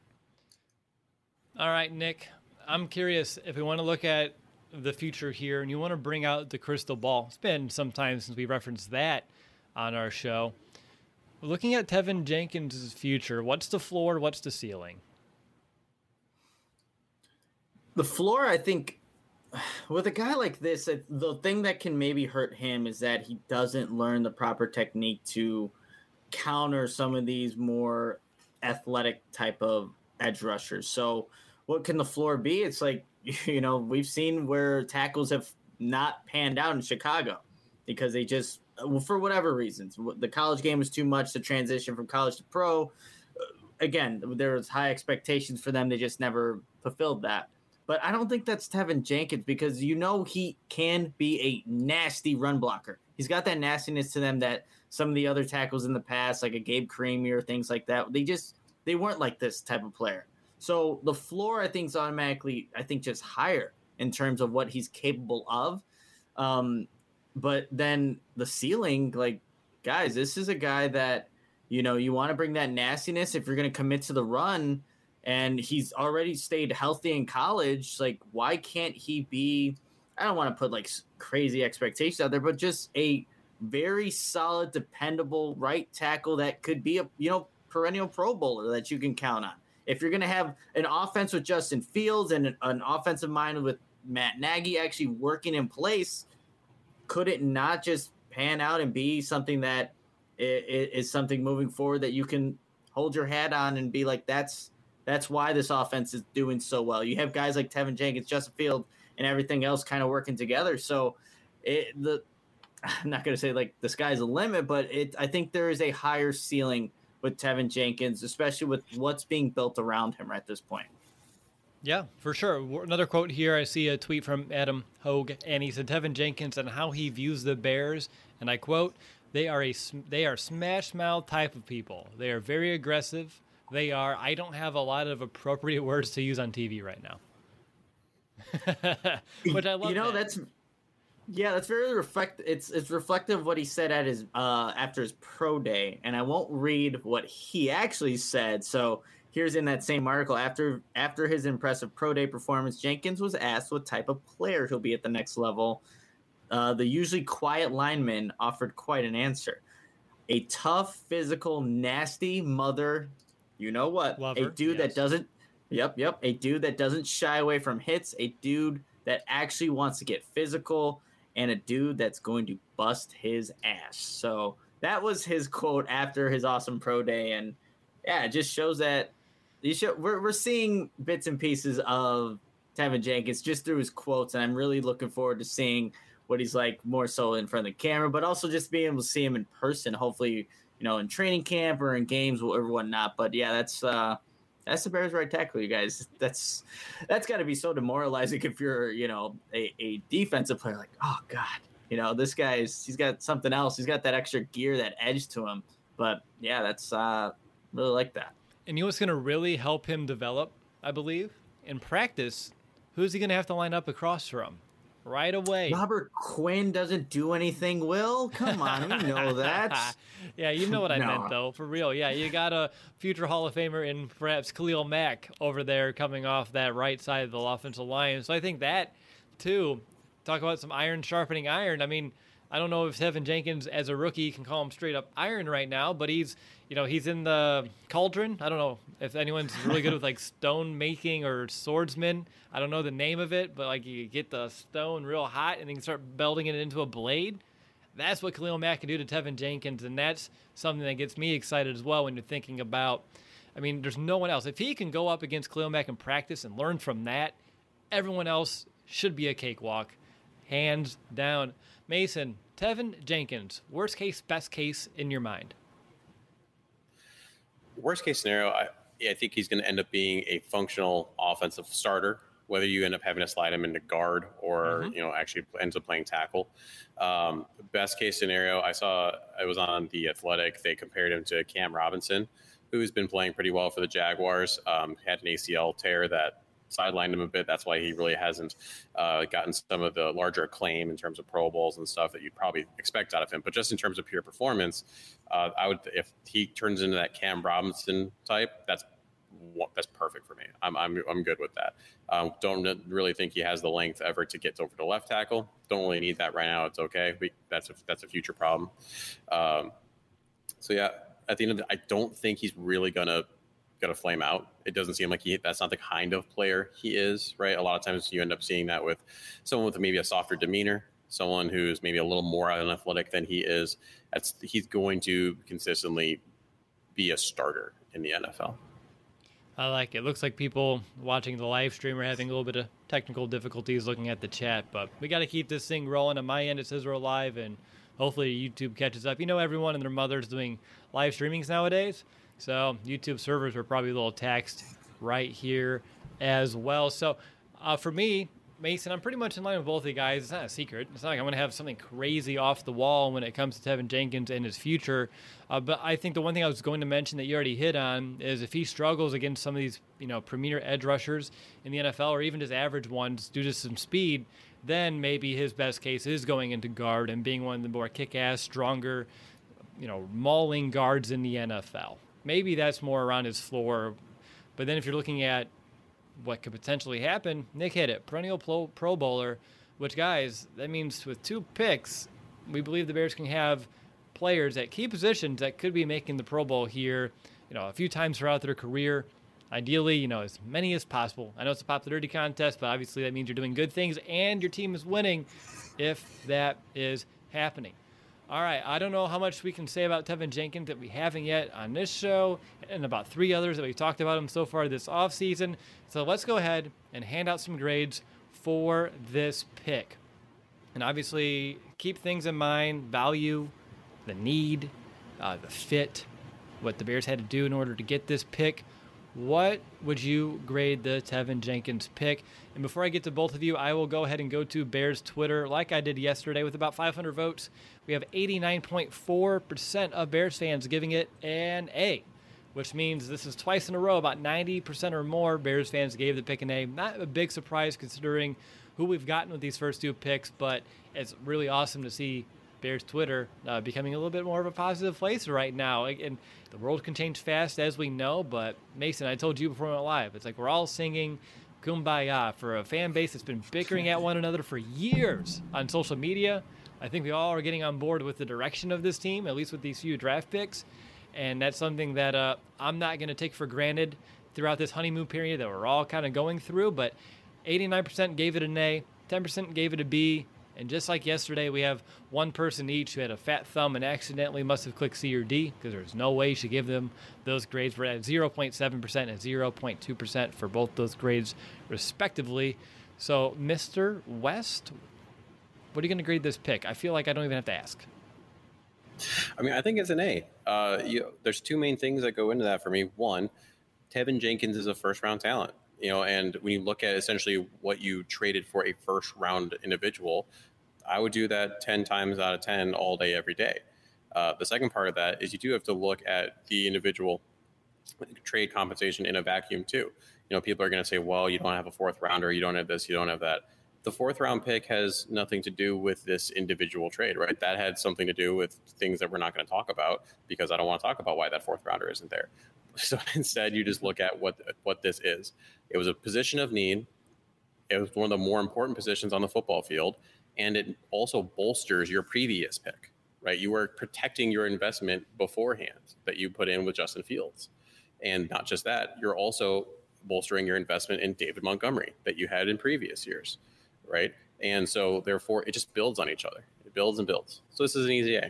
All right, Nick, I'm curious if we want to look at the future here and you want to bring out the crystal ball. It's been some time since we referenced that on our show. Looking at Tevin Jenkins' future, what's the floor, what's the ceiling? The floor, I think, with a guy like this, the thing that can maybe hurt him is that he doesn't learn the proper technique to counter some of these more athletic type of edge rushers. So what can the floor be? It's like, we've seen where tackles have not panned out in Chicago because they just, for whatever reasons, the college game was too much to transition from college to pro. Again, there was high expectations for them. They just never fulfilled that. But I don't think that's Tevin Jenkins because he can be a nasty run blocker. He's got that nastiness to them that some of the other tackles in the past, like a Gabe Creamy or things like that, they weren't like this type of player. So the floor, I think, is automatically, just higher in terms of what he's capable of. But then the ceiling, like, guys, this is a guy that, you want to bring that nastiness if you're going to commit to the run, and he's already stayed healthy in college. Like, why can't he be, I don't want to put, like, crazy expectations out there, but just a very solid, dependable right tackle that could be a, perennial Pro Bowler that you can count on. If you're going to have an offense with Justin Fields and an offensive mind with Matt Nagy actually working in place, could it not just pan out and be something that is something moving forward that you can hold your hat on and be like, that's why this offense is doing so well. You have guys like Tevin Jenkins, Justin Fields, and everything else kind of working together. So I'm not going to say like the sky's the limit, but I think there is a higher ceiling with Tevin Jenkins, especially with what's being built around him at this point. Yeah, for sure. Another quote here. I see a tweet from Adam Hogue, and he said Tevin Jenkins and how he views the Bears, and I quote, they are smash mouth type of people. They are very aggressive. I don't have a lot of appropriate words to use on TV right now. Which I love. That's very reflective. It's reflective of what he said at his after his pro day, and I won't read what he actually said. So Here's in that same article, after his impressive pro day performance, Jenkins was asked what type of player he'll be at the next level. The usually quiet lineman offered quite an answer. A tough, physical, nasty mother, you know what? Lover, a dude yes. that doesn't, a dude that doesn't shy away from hits, a dude that actually wants to get physical, and a dude that's going to bust his ass. So that was his quote after his awesome pro day, and yeah, it just shows that we're seeing bits and pieces of Tevin Jenkins just through his quotes, and I'm really looking forward to seeing what he's like more so in front of the camera, but also just being able to see him in person, hopefully, in training camp or in games or whatnot. But yeah, that's the Bears right tackle, you guys. That's got to be so demoralizing if you're, a defensive player. Like, oh God, this he's got something else. He's got that extra gear, that edge to him. But yeah, that's really like that. And you know what's going to really help him develop, I believe, in practice? Who's he going to have to line up across from? Right away. Robert Quinn doesn't do anything, Will. Come on, we know that. Yeah, you know what I meant, though, for real. Yeah, you got a future Hall of Famer in perhaps Khalil Mack over there coming off that right side of the offensive line. So I think that, too, talk about some iron sharpening iron. I mean, I don't know if Tevin Jenkins, as a rookie, can call him straight up iron right now, but he's in the cauldron. I don't know if anyone's really good with like stone making or swordsman. I don't know the name of it, but like you get the stone real hot and then you start belting it into a blade. That's what Khalil Mack can do to Tevin Jenkins, and that's something that gets me excited as well when you're thinking about, I mean, there's no one else. If he can go up against Khalil Mack in practice and learn from that, everyone else should be a cakewalk, hands down. Mason, Tevin Jenkins, worst case, best case in your mind? Worst case scenario, I think he's going to end up being a functional offensive starter, whether you end up having to slide him into guard or, actually ends up playing tackle. Best case scenario, I was on The Athletic. They compared him to Cam Robinson, who's been playing pretty well for the Jaguars. Had an ACL tear that sidelined him a bit. That's why he really hasn't gotten some of the larger acclaim in terms of Pro Bowls and stuff that you'd probably expect out of him. But just in terms of pure performance, if he turns into that Cam Robinson type, that's perfect for me. I'm good with that. Don't really think he has the length ever to get over to left tackle. Don't really need that right now. It's okay. That's a future problem. So yeah, at the end of the, I don't think he's really gonna flame out. It doesn't seem like that's not the kind of player he is, right? A lot of times you end up seeing that with someone with maybe a softer demeanor, someone who's maybe a little more unathletic than he is. He's going to consistently be a starter in the NFL. I like it. Looks like people watching the live stream are having a little bit of technical difficulties looking at the chat, but we got to keep this thing rolling. On my end, it says we're live, and hopefully YouTube catches up. Everyone and their mother's doing live streamings nowadays, so YouTube servers are probably a little taxed right here as well. So for me, Mason, I'm pretty much in line with both of you guys. It's not a secret. It's not like I'm going to have something crazy off the wall when it comes to Tevin Jenkins and his future. But I think the one thing I was going to mention that you already hit on is if he struggles against some of these, premier edge rushers in the NFL or even just average ones due to some speed, then maybe his best case is going into guard and being one of the more kick-ass, stronger, mauling guards in the NFL. Maybe that's more around his floor. But then if you're looking at what could potentially happen, Nick hit it. Perennial Pro Bowler, which, guys, that means with 2 picks, we believe the Bears can have players at key positions that could be making the Pro Bowl here, a few times throughout their career. Ideally, as many as possible. I know it's a popularity contest, but obviously that means you're doing good things and your team is winning if that is happening. All right, I don't know how much we can say about Tevin Jenkins that we haven't yet on this show and about 3 others that we've talked about him so far this offseason. So let's go ahead and hand out some grades for this pick. And obviously, keep things in mind, value, the need, the fit, what the Bears had to do in order to get this pick. What would you grade the Tevin Jenkins pick? And before I get to both of you, I will go ahead and go to Bears Twitter like I did yesterday with about 500 votes. We have 89.4% of Bears fans giving it an A, which means this is twice in a row. About 90% or more Bears fans gave the pick an A. Not a big surprise considering who we've gotten with these first 2 picks, but it's really awesome to see Bears Twitter becoming a little bit more of a positive place right now. And the world can change fast, as we know. But Mason, I told you before we went live, it's like we're all singing Kumbaya for a fan base that's been bickering at one another for years on social media. I think we all are getting on board with the direction of this team, at least with these few draft picks. And that's something that I'm not going to take for granted throughout this honeymoon period that we're all kind of going through. But 89% gave it an A, 10% gave it a B. And just like yesterday, we have one person each who had a fat thumb and accidentally must have clicked C or D, because there's no way you should give them those grades. We're at 0.7% and 0.2% for both those grades, respectively. So, Mr. West, what are you going to grade this pick? I feel like I don't even have to ask. I mean, I think it's an A. There's two main things that go into that for me. One, Tevin Jenkins is a first-round talent. And when you look at essentially what you traded for a first round individual, I would do that 10 times out of 10 all day, every day. The second part of that is you do have to look at the individual trade compensation in a vacuum too. People are going to say, well, you don't have a fourth rounder, you don't have this, you don't have that. The fourth round pick has nothing to do with this individual trade, right? That had something to do with things that we're not going to talk about, because I don't want to talk about why that fourth rounder isn't there. So instead, you just look at what this is. It was a position of need. It was one of the more important positions on the football field, and it also bolsters your previous pick, right? You were protecting your investment beforehand that you put in with Justin Fields. And not just that, you're also bolstering your investment in David Montgomery that you had in previous years, right? And so therefore, it just builds on each other. It builds and builds. So this is an easy A.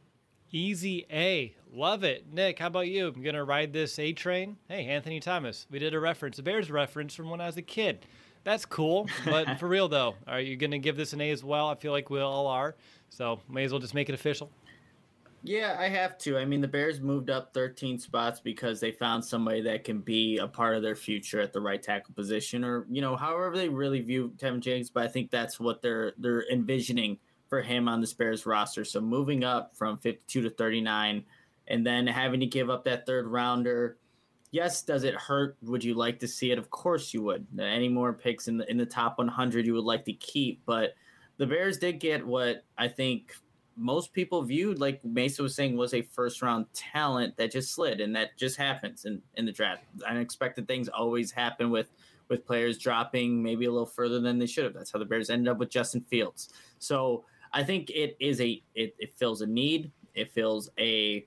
Easy A. Love it. Nick, how about you? I'm going to ride this A train. Hey, Anthony Thomas. We did a Bears reference from when I was a kid. That's cool. But for real, though, are you going to give this an A as well? I feel like we all are. So may as well just make it official. Yeah, I have to. I mean, the Bears moved up 13 spots because they found somebody that can be a part of their future at the right tackle position, or, however they really view Tevin Jenkins. But I think that's what they're envisioning for him on the Bears roster. So moving up from 52 to 39 and then having to give up that third rounder. Yes, does it hurt? Would you like to see it? Of course you would. Any more picks in the top 100 you would like to keep. But the Bears did get what I think most people viewed, like Mesa was saying, was a first-round talent that just slid, and that just happens in the draft. Unexpected things always happen with players dropping maybe a little further than they should have. That's how the Bears ended up with Justin Fields. So I think it fills a need. It fills a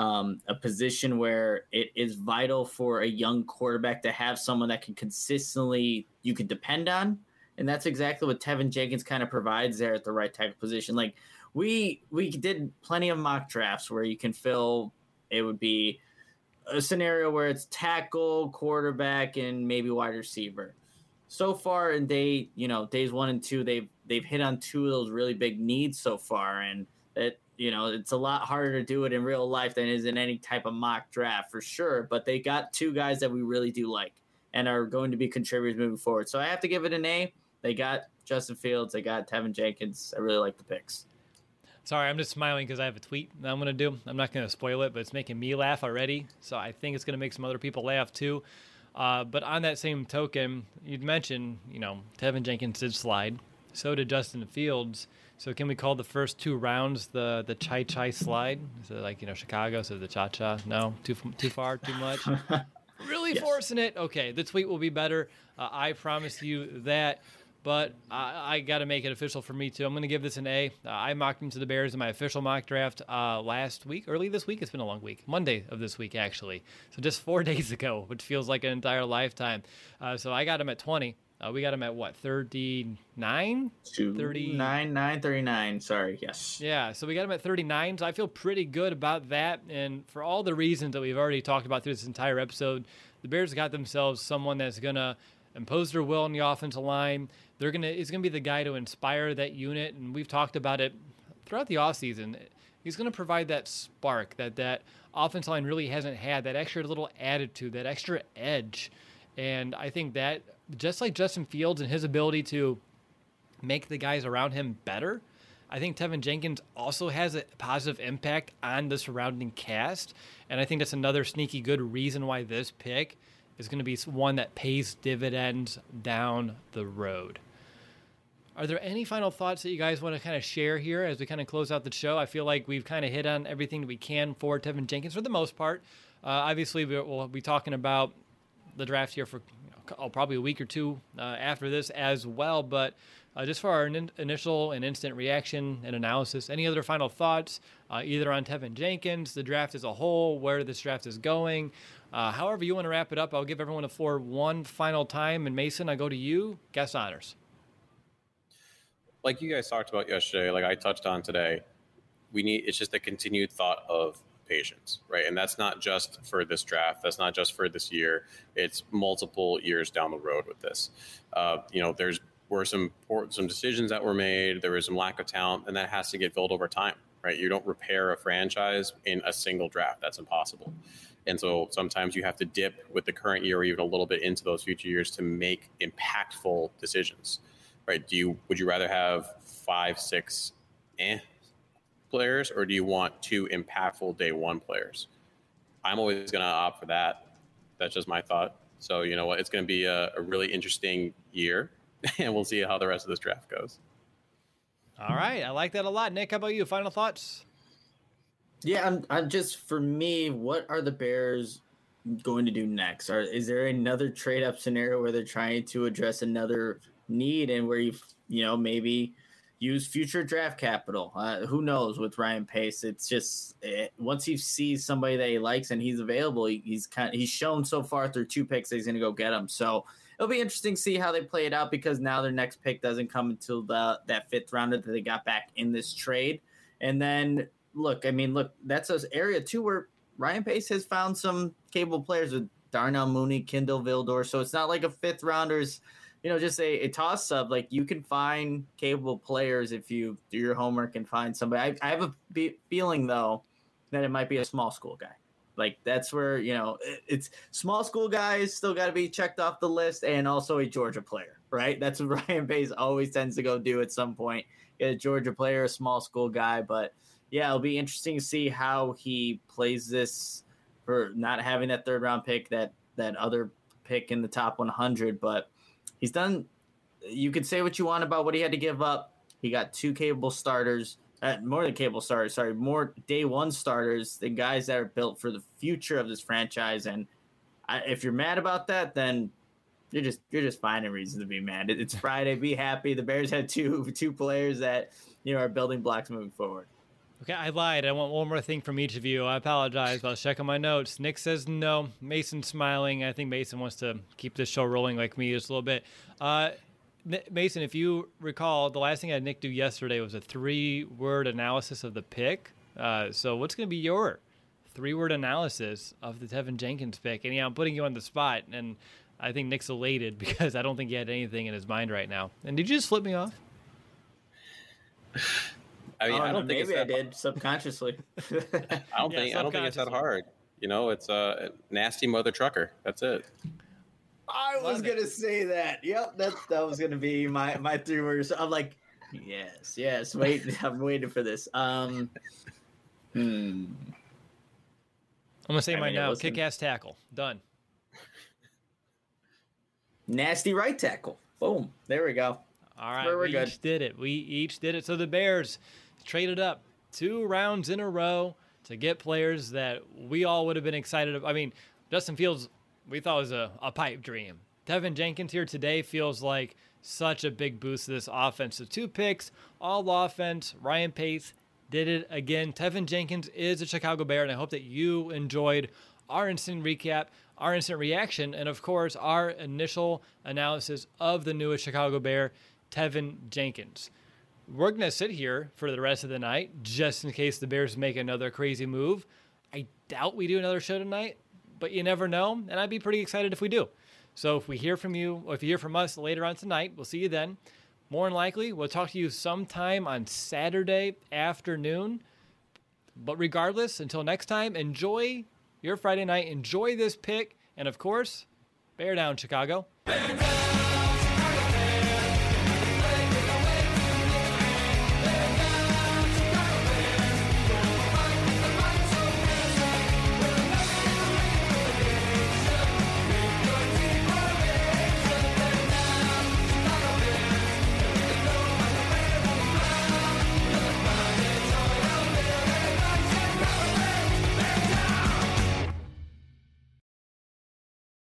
position where it is vital for a young quarterback to have someone that can consistently you can depend on, and that's exactly what Tevin Jenkins kind of provides there at the right tackle position. Like we did plenty of mock drafts where you can fill. It would be a scenario where it's tackle, quarterback, and maybe wide receiver. So far in days 1 and 2, they've hit on two of those really big needs so far, and that it's a lot harder to do it in real life than it is in any type of mock draft for sure. But they got two guys that we really do like and are going to be contributors moving forward. So I have to give it an A. They got Justin Fields. They got Tevin Jenkins. I really like the picks. Sorry, I'm just smiling because I have a tweet that I'm going to do. I'm not going to spoil it, but it's making me laugh already. So I think it's going to make some other people laugh too. But on that same token, you'd mentioned, Tevin Jenkins did slide. So did Justin Fields. So can we call the first two rounds the chai slide? Is it like, Chicago, so the cha-cha? No? Too far? Too much? Really yes. Forcing it? Okay, the tweet will be better. I promise you that. But I got to make it official for me, too. I'm going to give this an A. I mocked him to the Bears in my official mock draft last week, early this week. It's been a long week. Monday of this week, actually. So just 4 days ago, which feels like an entire lifetime. So I got him at 20. We got him at what, 39? 39. Sorry, yes. Yeah, so we got him at 39. So I feel pretty good about that. And for all the reasons that we've already talked about through this entire episode, the Bears got themselves someone that's going to impose their will on the offensive line. He's gonna be the guy to inspire that unit, and we've talked about it throughout the offseason. He's gonna provide that spark that offensive line really hasn't had, that extra little attitude, that extra edge. And I think that just like Justin Fields and his ability to make the guys around him better, I think Tevin Jenkins also has a positive impact on the surrounding cast. And I think that's another sneaky good reason why this pick is going to be one that pays dividends down the road. Are there any final thoughts that you guys want to kind of share here as we kind of close out the show? I feel like we've kind of hit on everything that we can for Teven Jenkins for the most part. Obviously, we'll be talking about the draft here for probably a week or two after this as well. But just for our initial and instant reaction and analysis, any other final thoughts either on Teven Jenkins, the draft as a whole, where this draft is going? However you want to wrap it up, I'll give everyone the floor one final time. And Mason, I go to you. Guest honors. Like you guys talked about yesterday, like I touched on today, it's just a continued thought of patience, right? And that's not just for this draft. That's not just for this year. It's multiple years down the road with this. Were some decisions that were made. There was some lack of talent, and that has to get filled over time, right? You don't repair a franchise in a single draft. That's impossible. And so sometimes you have to dip with the current year or even a little bit into those future years to make impactful decisions. Right? Would you rather have 5, 6 players, or do you want 2 impactful day one players? I'm always going to opt for that. That's just my thought. So you know what? It's going to be a really interesting year, and we'll see how the rest of this draft goes. All right, I like that a lot. Nick, how about you? Final thoughts? Yeah, I'm just, for me, what are the Bears going to do next? Is there another trade up scenario where they're trying to address another need and where maybe use future draft capital? Who knows with Ryan Pace? It's just once he sees somebody that he likes and he's available, he's shown so far through 2 picks that he's going to go get him. So it'll be interesting to see how they play it out, because now their next pick doesn't come until that 5th rounder that they got back in this trade. And then look, that's an area too where Ryan Pace has found some capable players with Darnell Mooney, Kindle Vildor. So it's not like a 5th rounder's just a toss-up. Like, you can find capable players if you do your homework and find somebody. I have a feeling, though, that it might be a small school guy. Like, that's where, it's small school guys still got to be checked off the list, and also a Georgia player, right? That's what Ryan Pace always tends to go do at some point. Get a Georgia player, a small school guy. But, yeah, it'll be interesting to see how he plays this for not having that 3rd-round pick, that other pick in the top 100, but he's done. You could say what you want about what he had to give up. He got 2 capable starters, more than capable starters. Sorry, more day one starters than guys that are built for the future of this franchise. And if you're mad about that, then you're just finding reasons to be mad. It's Friday. Be happy. The Bears had two players that are building blocks moving forward. Okay, I lied. I want one more thing from each of you. I apologize, but I was checking my notes. Nick says no. Mason's smiling. I think Mason wants to keep this show rolling like me just a little bit. Mason, if you recall, the last thing I had Nick do yesterday was a 3-word analysis of the pick. So what's going to be your 3-word analysis of the Teven Jenkins pick? And I'm putting you on the spot, and I think Nick's elated because I don't think he had anything in his mind right now. And did you just flip me off? I mean, I don't think maybe I did subconsciously. I don't think it's that hard. It's a nasty mother trucker. That's it. I was gonna say that. Yep, that was gonna be my 3 words. I'm like, yes. Wait, I'm waiting for this. I'm gonna say mine now. Kick-ass tackle. Done. Nasty right tackle. Boom. There we go. All right, we each did it. So the Bears traded up 2 rounds in a row to get players that we all would have been excited about. I mean, Justin Fields, we thought was a pipe dream. Teven Jenkins here today feels like such a big boost to this offense. So 2 picks, all offense. Ryan Pace did it again. Teven Jenkins is a Chicago Bear, and I hope that you enjoyed our instant recap, our instant reaction, and of course, our initial analysis of the newest Chicago Bear, Teven Jenkins. We're going to sit here for the rest of the night just in case the Bears make another crazy move. I doubt we do another show tonight, but you never know, and I'd be pretty excited if we do. So if we hear from you, or if you hear from us later on tonight, we'll see you then. More than likely, we'll talk to you sometime on Saturday afternoon. But regardless, until next time, enjoy your Friday night. Enjoy this pick. And of course, bear down, Chicago.